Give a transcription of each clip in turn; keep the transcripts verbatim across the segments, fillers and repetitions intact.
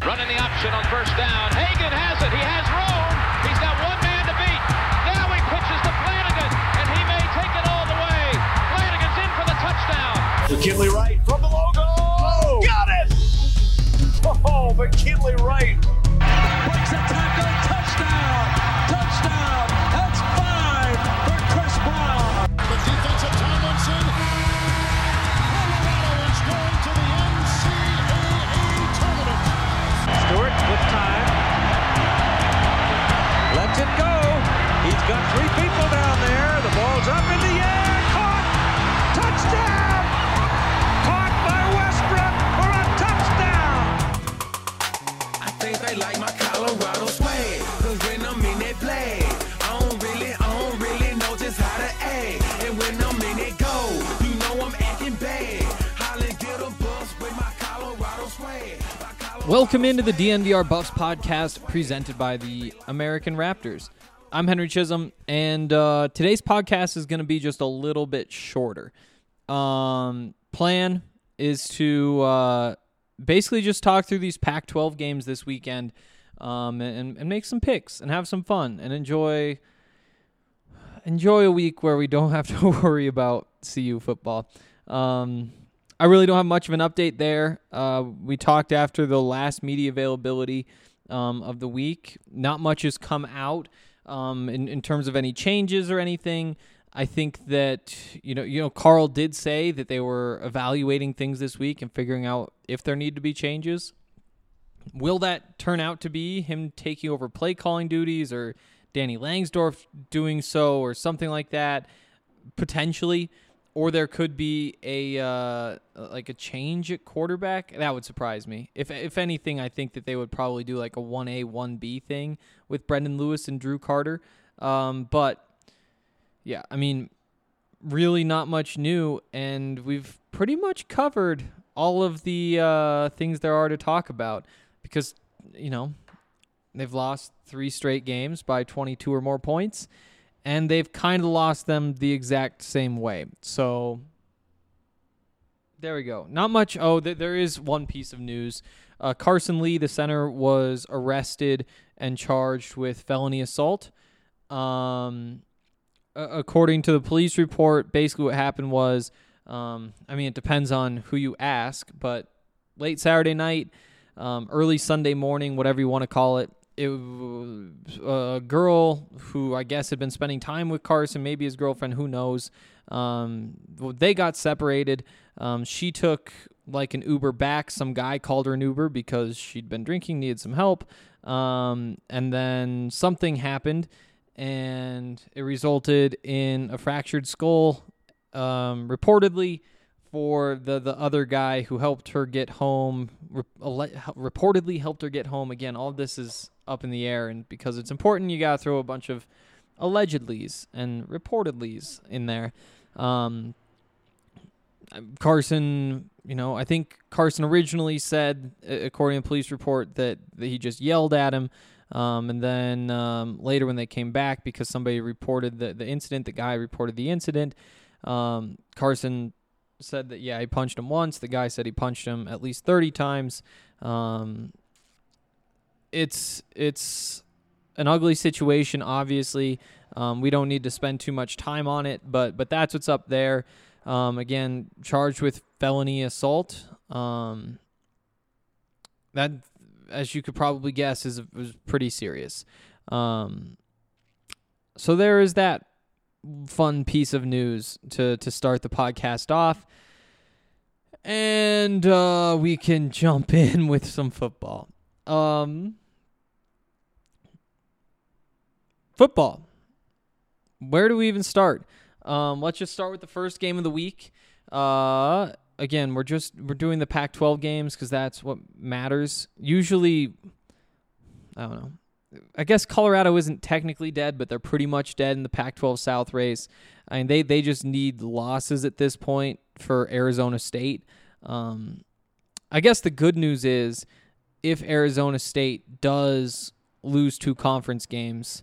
Running the option on first down. Hagan has it. He has room. He's got one man to beat. Now he pitches to Flanagan, and he may take it all the way. Flanagan's in for the touchdown. McKinley Wright from the logo. Oh, got it! Oh, McKinley Wright. Breaks a tackle. Touchdown. Touchdown. That's five for Chris Brown. The defensive Tomlinson. Colorado is going to the N C double A tournament. Stewart with time. Lets it go. He's got three people down there. The ball's up in the air. Caught. Touchdown. Caught by Westbrook for a touchdown. I think they like my Colorado swag. Cause when I'm in that play, I don't really, I don't really know just how to act. And when I'm in it go, you know I'm acting bad. Holly get a bus with my Colorado swag. My Colorado Welcome into the D N V R Buffs podcast presented by the American Raptors. I'm Henry Chisholm, and uh, today's podcast is going to be just a little bit shorter. Um, plan is to uh, basically just talk through these Pac twelve games this weekend um, and, and make some picks and have some fun and enjoy enjoy a week where we don't have to worry about C U football. Um, I really don't have much of an update there. Uh, we talked after the last media availability um, of the week. Not much has come out. Um, in, in terms of any changes or anything. I think that, you know, you know, Carl did say that they were evaluating things this week and figuring out if there need to be changes. Will that turn out to be him taking over play calling duties or Danny Langsdorf doing so or something like that? Potentially. Or there could be a uh, like a change at quarterback. That would surprise me. If if anything, I think that they would probably do like a one A, one B thing with Brendan Lewis and Drew Carter. Um, but, yeah, I mean, really not much new. And we've pretty much covered all of the uh, things there are to talk about. Because, you know, they've lost three straight games by twenty-two or more points. And they've kind of lost them the exact same way. So there we go. Not much. Oh, th- there is one piece of news. Uh, Carson Lee, the center, was arrested and charged with felony assault. Um, uh, according to the police report, basically what happened was, um, I mean, it depends on who you ask, but late Saturday night, um, early Sunday morning, whatever you want to call it, It, a girl who I guess had been spending time with Carson, maybe his girlfriend, who knows. Um, they got separated. Um, she took like an Uber back. Some guy called her an Uber because she'd been drinking, needed some help. Um, and then something happened, and it resulted in a fractured skull, um, reportedly, for the, the other guy who helped her get home, re- reportedly helped her get home. Again, all of this is up in the air, and because it's important, you got to throw a bunch of allegedlys and reportedlys in there. Um, Carson, you know, I think Carson originally said, according to the police report, that, that he just yelled at him. Um, and then um, later when they came back, because somebody reported the, the incident, the guy reported the incident, um, Carson said that, yeah, he punched him once. The guy said he punched him at least thirty times. Um, it's it's an ugly situation, obviously. Um, we don't need to spend too much time on it, but but that's what's up there. Um, again, charged with felony assault. Um, that, as you could probably guess, is was pretty serious. Um, so there is that fun piece of news to to start the podcast off, and uh, we can jump in with some football. Um, football. Where do we even start? Um, let's just start with the first game of the week. Uh, again, we're just we're doing the Pac twelve games because that's what matters. Usually, I don't know. I guess Colorado isn't technically dead, but they're pretty much dead in the Pac twelve South race. I mean, they, they just need losses at this point for Arizona State. Um, I guess the good news is if Arizona State does lose two conference games,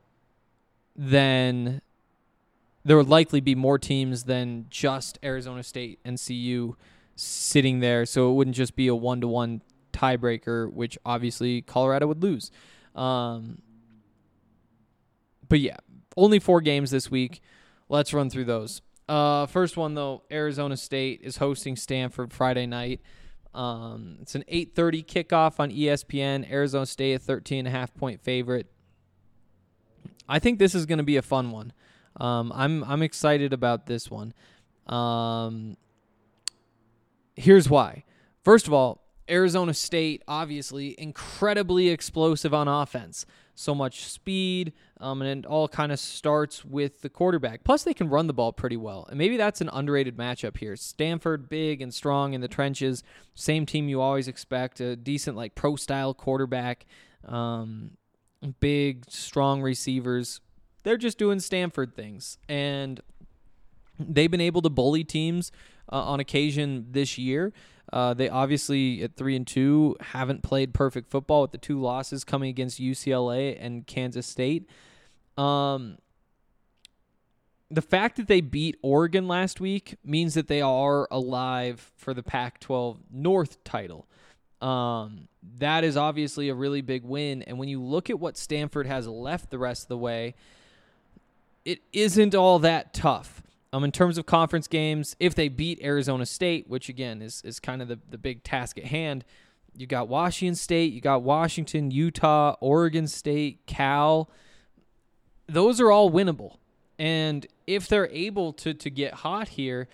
then there would likely be more teams than just Arizona State and C U sitting there, so it wouldn't just be a one-to-one tiebreaker, which obviously Colorado would lose. Um, but yeah, only four games this week. Let's run through those. Uh, first one, though, Arizona State is hosting Stanford Friday night. Um, it's an eight thirty kickoff on E S P N. Arizona State, a thirteen and a half point favorite. I think this is going to be a fun one. Um, I'm I'm excited about this one. Um, here's why. First of all, Arizona State, obviously, incredibly explosive on offense. So much speed, um, and it all kind of starts with the quarterback. Plus, they can run the ball pretty well. And maybe that's an underrated matchup here. Stanford, big and strong in the trenches. Same team you always expect. A decent, like, pro-style quarterback. Um, big, strong receivers. They're just doing Stanford things. And they've been able to bully teams uh, on occasion this year. Uh, they obviously, at three and two, haven't played perfect football with the two losses coming against U C L A and Kansas State. Um, the fact that they beat Oregon last week means that they are alive for the Pac twelve North title. Um, that is obviously a really big win. And when you look at what Stanford has left the rest of the way, it isn't all that tough. Um, in terms of conference games, if they beat Arizona State, which again is is kind of the, the big task at hand, you got Washington State, you got Washington, Utah, Oregon State, Cal. Those are all winnable. And if they're able to to get hot here,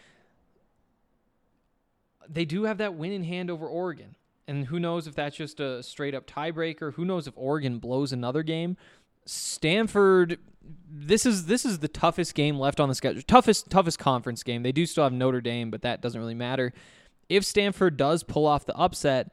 they do have that win in hand over Oregon. And who knows if that's just a straight up tiebreaker? Who knows if Oregon blows another game? Stanford, this is this is the toughest game left on the schedule. Toughest toughest conference game. They do still have Notre Dame, but that doesn't really matter. If Stanford does pull off the upset,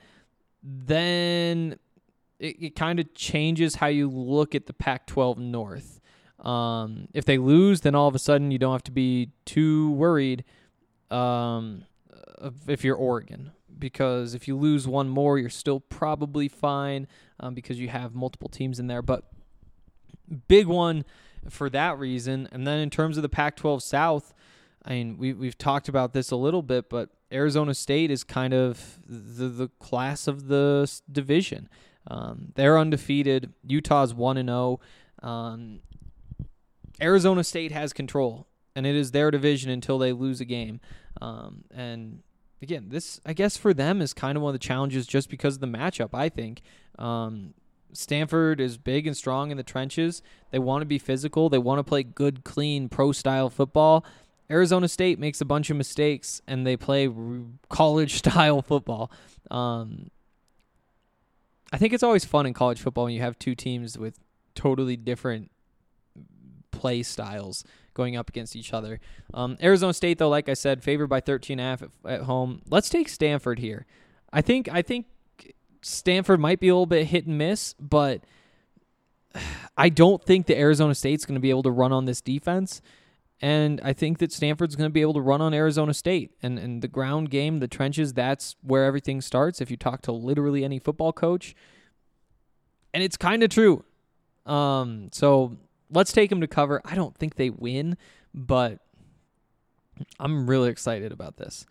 then it, it kind of changes how you look at the Pac twelve North. Um, if they lose, then all of a sudden you don't have to be too worried um, if you're Oregon. Because if you lose one more, you're still probably fine um, because you have multiple teams in there. But big one for that reason. And then in terms of the Pac twelve South, I mean, we, we've talked about this a little bit, but Arizona State is kind of the, the class of the division. Um, they're undefeated. Utah's one and oh. Um, Arizona State has control, and it is their division until they lose a game. Um, and again, this, I guess, for them is kind of one of the challenges just because of the matchup, I think. Um, Stanford is big and strong in the trenches. They want to be physical. They want to play good, clean, pro-style football. Arizona State makes a bunch of mistakes, and they play college-style football. Um, I think it's always fun in college football when you have two teams with totally different play styles going up against each other. Um, Arizona State, though, like I said, favored by thirteen and a half at, at home. Let's take Stanford here. I think I think Stanford might be a little bit hit and miss, but I don't think that Arizona State's going to be able to run on this defense, and I think that Stanford's going to be able to run on Arizona State. And, and the ground game, the trenches, that's where everything starts if you talk to literally any football coach. And it's kind of true. Um, so let's take them to cover. I don't think they win, but I'm really excited about this.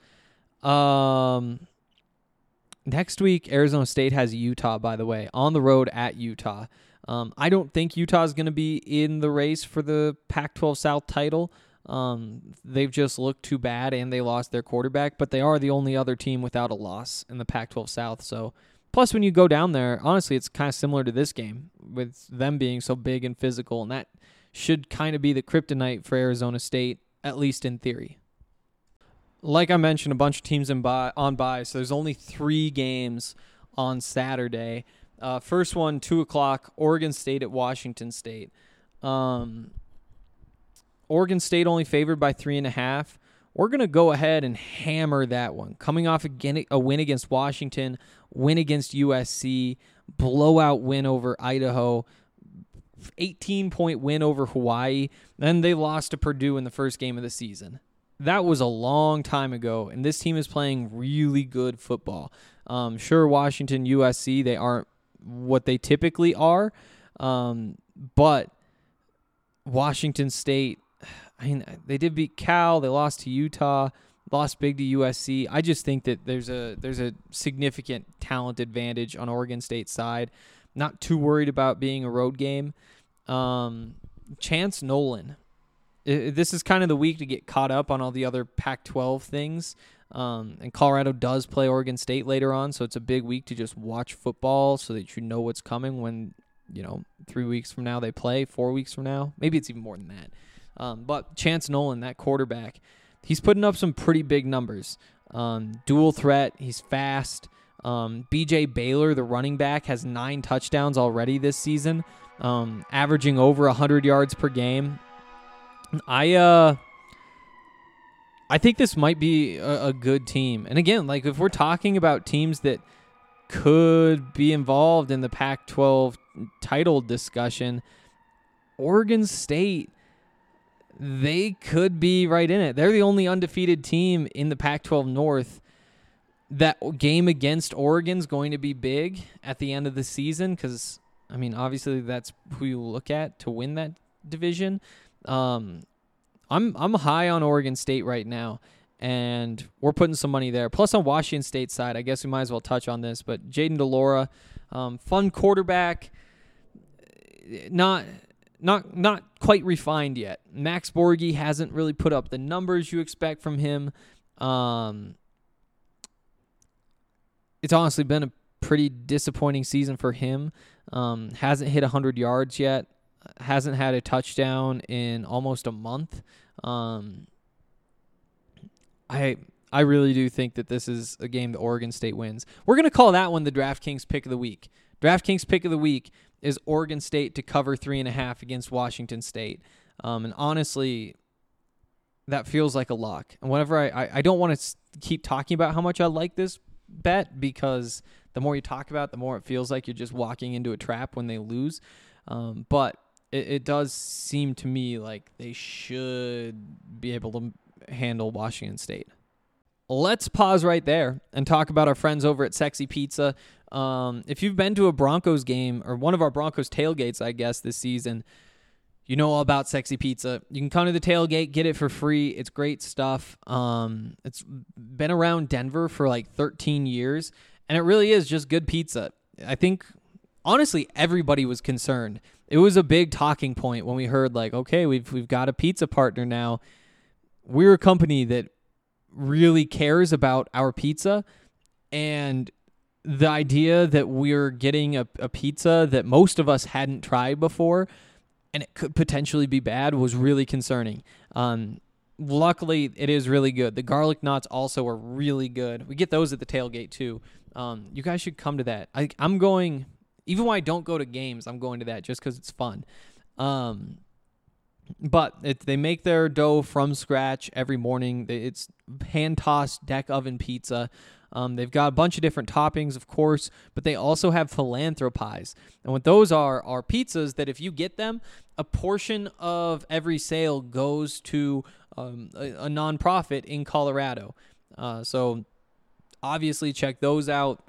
Um, next week, Arizona State has Utah, by the way, on the road at Utah. Um, I don't think Utah is going to be in the race for the Pac twelve South title. Um, they've just looked too bad, and they lost their quarterback, but they are the only other team without a loss in the Pac twelve South. So, plus, when you go down there, honestly, it's kind of similar to this game with them being so big and physical, and that should kind of be the kryptonite for Arizona State, at least in theory. Like I mentioned, a bunch of teams in bye, on bye, so there's only three games on Saturday. Uh, first one, two o'clock, Oregon State at Washington State. Um, Oregon State only favored by three and a half. We're going to go ahead and hammer that one. Coming off again a win against Washington, win against U S C, blowout win over Idaho, eighteen-point win over Hawaii. Then they lost to Purdue in the first game of the season. That was a long time ago, and this team is playing really good football. Um, sure, Washington, U S C, they aren't what they typically are, um, but Washington State, I mean, they did beat Cal. They lost to Utah. lost big to U S C. I just think that there's a there's a significant talent advantage on Oregon State's side. Not too worried about being a road game. Um, Chance Nolan. I, this is kind of the week to get caught up on all the other Pac twelve things. Um, and Colorado does play Oregon State later on, so it's a big week to just watch football so that you know what's coming when, you know, three weeks from now they play, four weeks from now. Maybe it's even more than that. Um, but Chance Nolan, that quarterback, he's putting up some pretty big numbers. Um, dual threat, he's fast. Um, B J Baylor, the running back, has nine touchdowns already this season, um, averaging over one hundred yards per game. I uh, I think this might be a, a good team. And again, like if we're talking about teams that could be involved in the Pac twelve title discussion, Oregon State, they could be right in it. They're the only undefeated team in the Pac twelve North. That game against Oregon's going to be big at the end of the season because, I mean, obviously that's who you look at to win that division. Um, I'm I'm high on Oregon State right now, and we're putting some money there. Plus on Washington State's side, I guess we might as well touch on this, but Jaden DeLora, um, fun quarterback, not not not quite refined yet. Max Borghi hasn't really put up the numbers you expect from him. Um, it's honestly been a pretty disappointing season for him. Um, hasn't hit one hundred yards yet. Hasn't had a touchdown in almost a month. Um, I I really do think that this is a game that Oregon State wins. We're going to call that one the DraftKings pick of the week. DraftKings pick of the week is Oregon State to cover three and a half against Washington State. Um, and honestly, that feels like a lock. And whenever I, I, I don't want to keep talking about how much I like this bet because the more you talk about it, the more it feels like you're just walking into a trap when they lose. Um, but it, it does seem to me like they should be able to handle Washington State. Let's pause right there and talk about our friends over at Sexy Pizza. Um, if you've been to a Broncos game or one of our Broncos tailgates, I guess, this season, you know all about Sexy Pizza. You can come to the tailgate, get it for free. It's great stuff. Um, it's been around Denver for like thirteen years, and it really is just good pizza. I think, honestly, everybody was concerned. It was a big talking point when we heard, like, okay, we've we've got a pizza partner now. We're a company that really cares about our pizza, and the idea that we're getting a, a pizza that most of us hadn't tried before and it could potentially be bad was really concerning. Um, luckily, it is really good. The garlic knots also are really good. We get those at the tailgate, too. Um, you guys should come to that. I, I'm going, even when I don't go to games, I'm going to that just because it's fun. Um, but it, they make their dough from scratch every morning. It's hand-tossed deck oven pizza. Um, they've got a bunch of different toppings, of course, but they also have philanthropies. And what those are are pizzas that if you get them, a portion of every sale goes to um, a, a nonprofit in Colorado. Uh, so obviously check those out.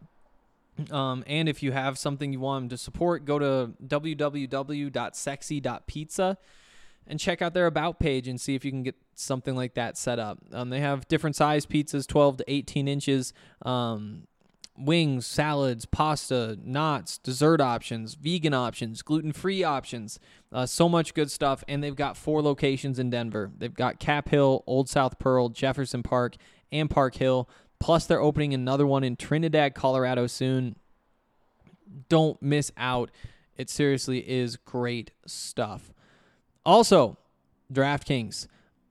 Um, and if you have something you want them to support, go to w w w dot sexy dot pizza and check out their About page and see if you can get something like that set up. Um, they have different size pizzas, twelve to eighteen inches, um, wings, salads, pasta, knots, dessert options, vegan options, gluten-free options, uh, so much good stuff. And they've got four locations in Denver. They've got Cap Hill, Old South Pearl, Jefferson Park, and Park Hill. Plus, they're opening another one in Trinidad, Colorado soon. Don't miss out. It seriously is great stuff. Also, DraftKings.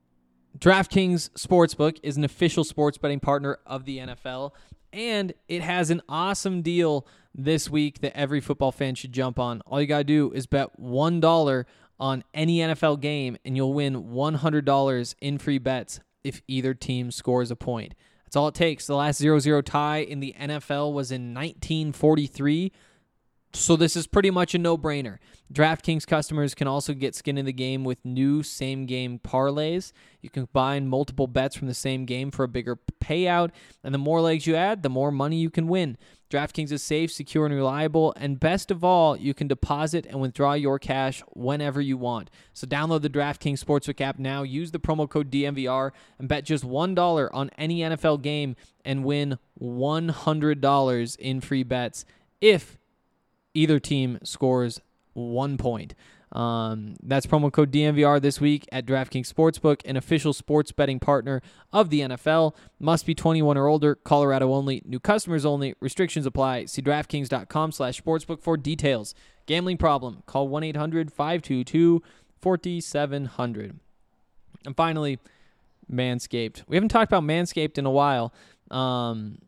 DraftKings Sportsbook is an official sports betting partner of the N F L, and it has an awesome deal this week that every football fan should jump on. All you got to do is bet one dollar on any N F L game, and you'll win one hundred dollars in free bets if either team scores a point. That's all it takes. The last zero zero tie in the N F L was in nineteen forty-three. So this is pretty much a no-brainer. DraftKings customers can also get skin in the game with new same-game parlays. You can combine multiple bets from the same game for a bigger payout, and the more legs you add, the more money you can win. DraftKings is safe, secure, and reliable, and best of all, you can deposit and withdraw your cash whenever you want. So download the DraftKings Sportsbook app now, use the promo code D M V R, and bet just one dollar on any N F L game and win one hundred dollars in free bets if either team scores one point. Um, that's promo code D M V R this week at DraftKings Sportsbook, an official sports betting partner of the N F L. Must be twenty-one or older, Colorado only, new customers only, restrictions apply. See DraftKings.com slash sportsbook for details. Gambling problem, call one eight hundred five two two four seven zero zero. And finally, Manscaped. We haven't talked about Manscaped in a while. Um,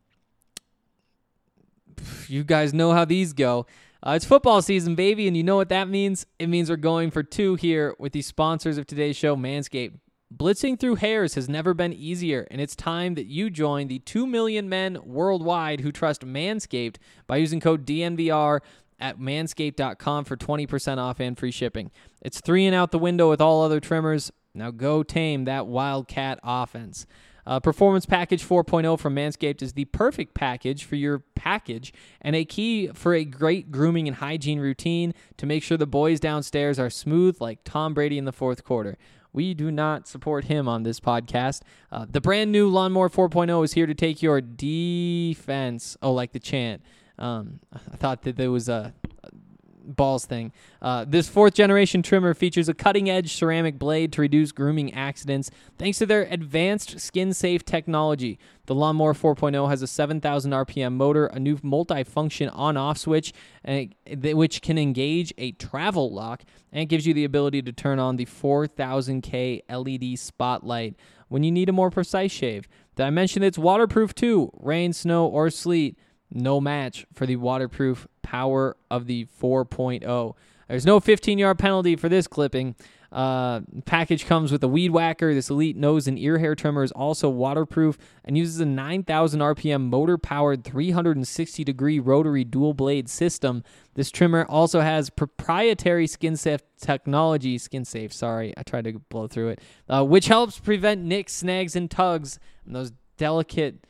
you guys know how these go. Uh, it's football season, baby, and you know what that means? It means we're going for two here with the sponsors of today's show, Manscaped. Blitzing through hairs has never been easier, and it's time that you join the two million men worldwide who trust Manscaped by using code D N V R at manscaped dot com for twenty percent off and free shipping. It's three and out the window with all other trimmers. Now go tame that Wildcat offense. Uh, Performance Package four point oh from Manscaped is the perfect package for your package and a key for a great grooming and hygiene routine to make sure the boys downstairs are smooth like Tom Brady in the fourth quarter. We do not support him on this podcast. Uh, the brand new Lawnmower four point oh is here to take your defense. Oh, like the chant. Um, I thought that there was a balls thing. Uh, this fourth generation trimmer features a cutting edge ceramic blade to reduce grooming accidents thanks to their advanced skin safe technology. The Lawnmower four point oh has a seven thousand R P M motor, a new multi-function on-off switch, and it, which can engage a travel lock, and it gives you the ability to turn on the four thousand K L E D spotlight when you need a more precise shave. Did I mention it's waterproof too? Rain, snow, or sleet. No match for the waterproof power of the four point oh. There's no fifteen-yard penalty for this clipping. Uh, package comes with a weed whacker. This elite nose and ear hair trimmer is also waterproof and uses a nine thousand R P M motor-powered three hundred sixty degree rotary dual-blade system. This trimmer also has proprietary skin-safe technology. Skin-safe, sorry. I tried to blow through it. Uh, which helps prevent nicks, snags, and tugs. And those delicate...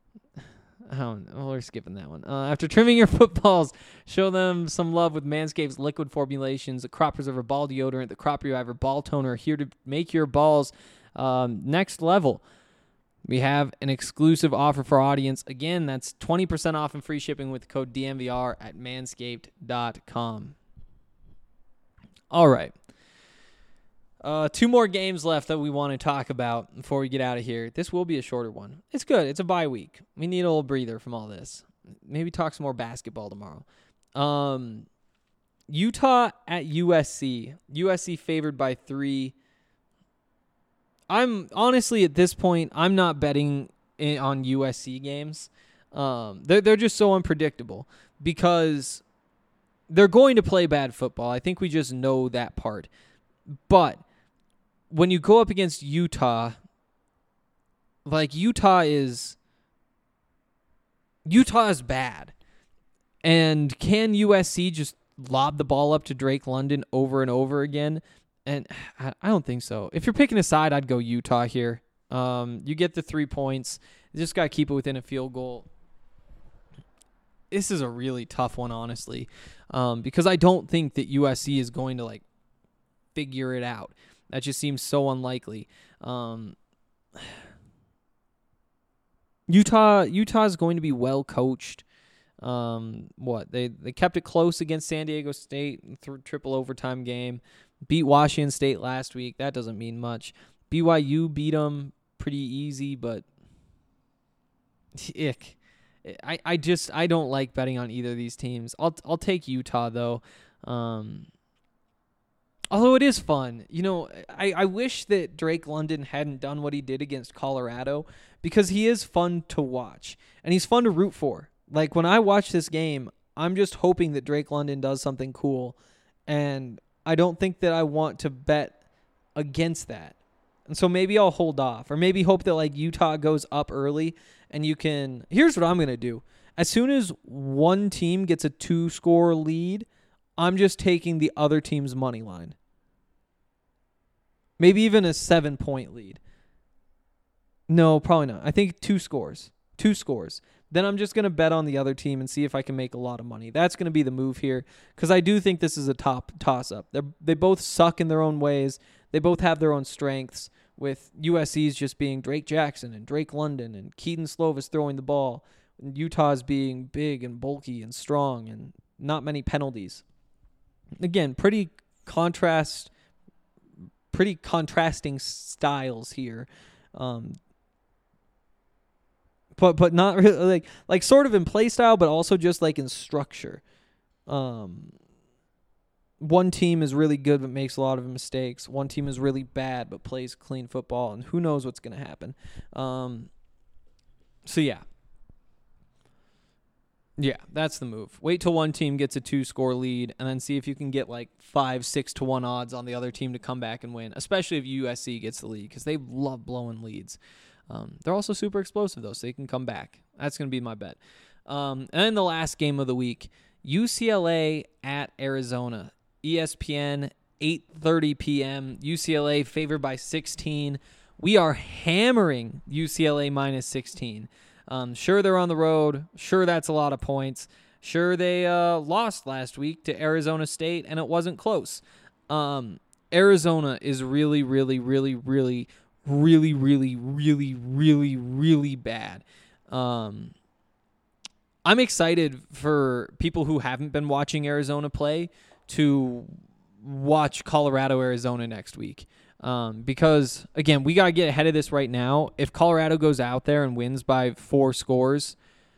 Oh, well, we're skipping that one. Uh, after trimming your footballs, show them some love with Manscaped's liquid formulations, the Crop Preserver Ball Deodorant, the Crop Reviver Ball Toner, here to make your balls um, next level. We have an exclusive offer for our audience. Again, that's twenty percent off and free shipping with the code D M V R at manscaped dot com. All right. Uh, two more games left that we want to talk about before we get out of here. This will be a shorter one. It's good. It's a bye week. We need a little breather from all this. Maybe talk some more basketball tomorrow. Um, Utah at U S C. U S C favored by three. I'm honestly at this point, I'm not betting in, on U S C games. Um, they're they're just so unpredictable because they're going to play bad football. I think we just know that part. But when you go up against Utah, like Utah is Utah is bad. And can U S C just lob the ball up to Drake London over and over again? And I don't think so. If you're picking a side, I'd go Utah here. Um, you get the three points. You just got to keep it within a field goal. This is a really tough one, honestly, um, because I don't think that U S C is going to like figure it out. That just seems so unlikely. Um, Utah, Utah is going to be well coached. Um, what they they kept it close against San Diego State, through triple overtime game. Beat Washington State last week. That doesn't mean much. B Y U beat them pretty easy, but ick. I, I just I don't like betting on either of these teams. I'll I'll take Utah though. Um, although it is fun. You know, I, I wish that Drake London hadn't done what he did against Colorado because he is fun to watch and he's fun to root for. Like when I watch this game, I'm just hoping that Drake London does something cool, and I don't think that I want to bet against that. And so maybe I'll hold off, or maybe hope that like Utah goes up early and you can. Here's what I'm going to do. As soon as one team gets a two score lead, I'm just taking the other team's money line. Maybe even a seven point lead. No, probably not. I think two scores. Two scores. then I'm just going to bet on the other team and see if I can make a lot of money. That's going to be the move here because I do think this is a top toss-up. They they both suck in their own ways. They both have their own strengths, with U S C's just being Drake Jackson and Drake London and Keaton Slovis throwing the ball, and Utah's being big and bulky and strong and not many penalties. Again, pretty contrast, pretty contrasting styles here. Um, But but not really like like sort of in play style, but also just like in structure. Um, one team is really good but makes a lot of mistakes. One team is really bad but plays clean football, and who knows what's going to happen. Um, so yeah, yeah, that's the move. Wait till one team gets a two-score lead, and then see if you can get like five, six to one odds on the other team to come back and win. Especially if U S C gets the lead, because they love blowing leads. Um, they're also super explosive, though, so they can come back. That's going to be my bet. Um, and then the last game of the week, U C L A at Arizona. E S P N, eight thirty p.m. U C L A favored by sixteen. We are hammering U C L A minus sixteen. Um, sure, they're on the road. Sure, that's a lot of points. Sure, they uh, lost last week to Arizona State, and it wasn't close. Um, Arizona is really, really, really, really really, really, really, really, really bad. Um, I'm excited for people who haven't been watching Arizona play to watch Colorado, Arizona next week. Um, because, again, we got to get ahead of this right now. If Colorado goes out there and wins by four scores,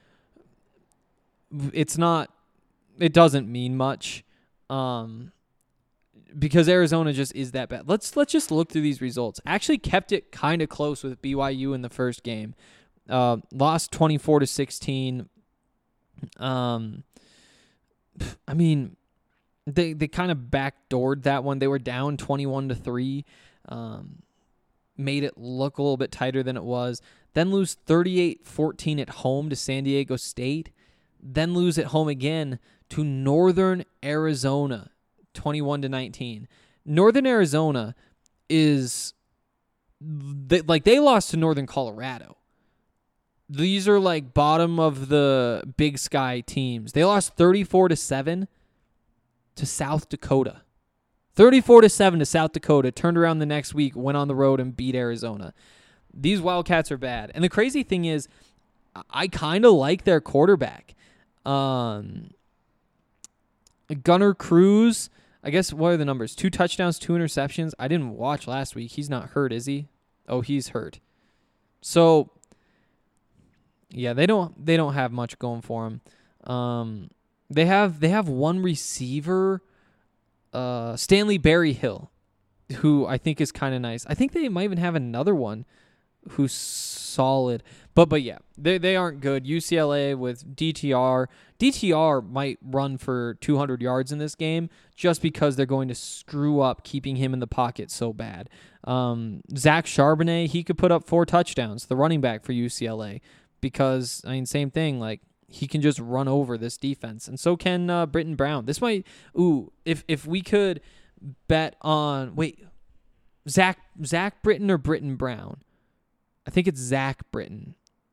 it's not, it doesn't mean much. Um, Because Arizona just is that bad. Let's let's just look through these results. Actually kept it kind of close with B Y U in the first game. Uh, lost twenty-four to sixteen. Um, I mean, they they kind of backdoored that one. They were down twenty-one to three. Um, made it look a little bit tighter than it was. Then lose thirty-eight fourteen at home to San Diego State. Then lose at home again to Northern Arizona. twenty-one to nineteen. Northern Arizona is they, like they lost to Northern Colorado. These are like bottom of the Big Sky teams. They lost thirty-four to seven to South Dakota. thirty-four to seven to South Dakota. Turned around the next week, went on the road and beat Arizona. These Wildcats are bad. And the crazy thing is I kind of like their quarterback. Um Gunnar Cruz, I guess, what are the numbers? Two touchdowns, two interceptions. I didn't watch last week. He's not hurt, is he? Oh, he's hurt. So, yeah, they don't they don't have much going for him. Um, they have they have one receiver, uh, Stanley Berryhill, who I think is kind of nice. I think they might even have another one who's solid. But but yeah, they they aren't good. U C L A with D T R. D T R might run for two hundred yards in this game just because they're going to screw up keeping him in the pocket so bad. Um, Zach Charbonnet, he could put up four touchdowns, the running back for U C L A, because, I mean, same thing, like, he can just run over this defense. And so can uh, Britton Brown. This might, ooh, if if we could bet on, wait, Zach, Zach Britton or Britton Brown? I think it's Zach Britton.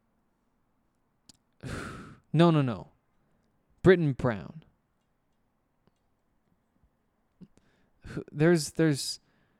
No, no, no. Britton Brown. There's, there's,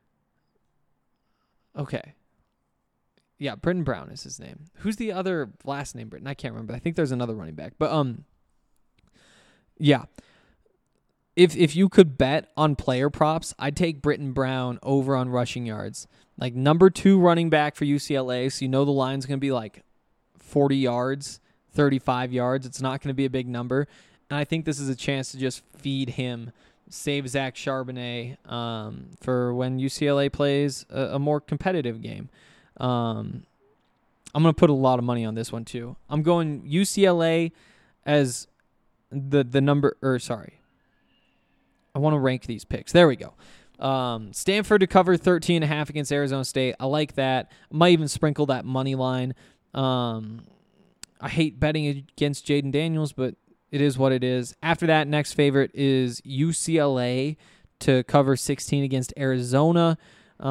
okay. Yeah, Britton Brown is his name. Who's the other last name Britton? I can't remember. I think there's another running back. But, um, yeah. If if you could bet on player props, I'd take Britton Brown over on rushing yards. Like, number two running back for U C L A, so you know the line's going to be like forty yards, thirty-five yards. It's not going to be a big number. And I think this is a chance to just feed him, save Zach Charbonnet um, for when U C L A plays a, a more competitive game. Um, I'm going to put a lot of money on this one, too. I'm going U C L A as the the number, or sorry. I want to rank these picks. There we go. Um, Stanford to cover thirteen and a half against Arizona State. I like that. Might even sprinkle that money line. Um, I hate betting against Jaden Daniels, but it is what it is. After that, next favorite is U C L A to cover sixteen against Arizona.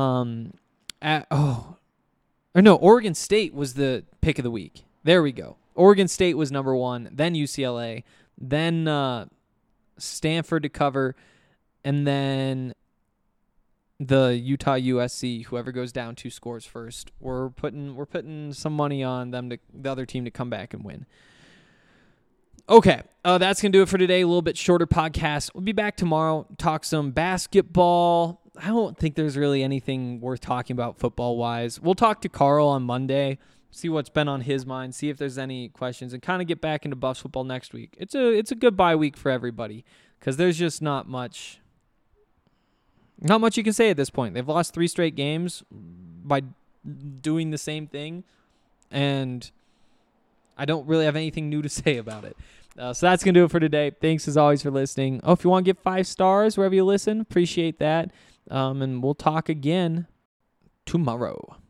Um, at, oh, or no, Oregon State was the pick of the week. There we go. Oregon State was number one, then U C L A, then uh, Stanford to cover, and then the Utah U S C. Whoever goes down two scores first, we're putting we're putting some money on them to the other team to come back and win. Okay, uh, that's gonna do it for today. A little bit shorter podcast. We'll be back tomorrow. Talk some basketball. I don't think there's really anything worth talking about football wise. We'll talk to Carl on Monday. See what's been on his mind, see if there's any questions, and kind of get back into Buffs football next week. It's a it's a good bye week for everybody because there's just not much, not much you can say at this point. They've lost three straight games by doing the same thing, and I don't really have anything new to say about it. Uh, so that's going to do it for today. Thanks as always for listening. Oh, if you want to give five stars wherever you listen, appreciate that. Um, and we'll talk again tomorrow.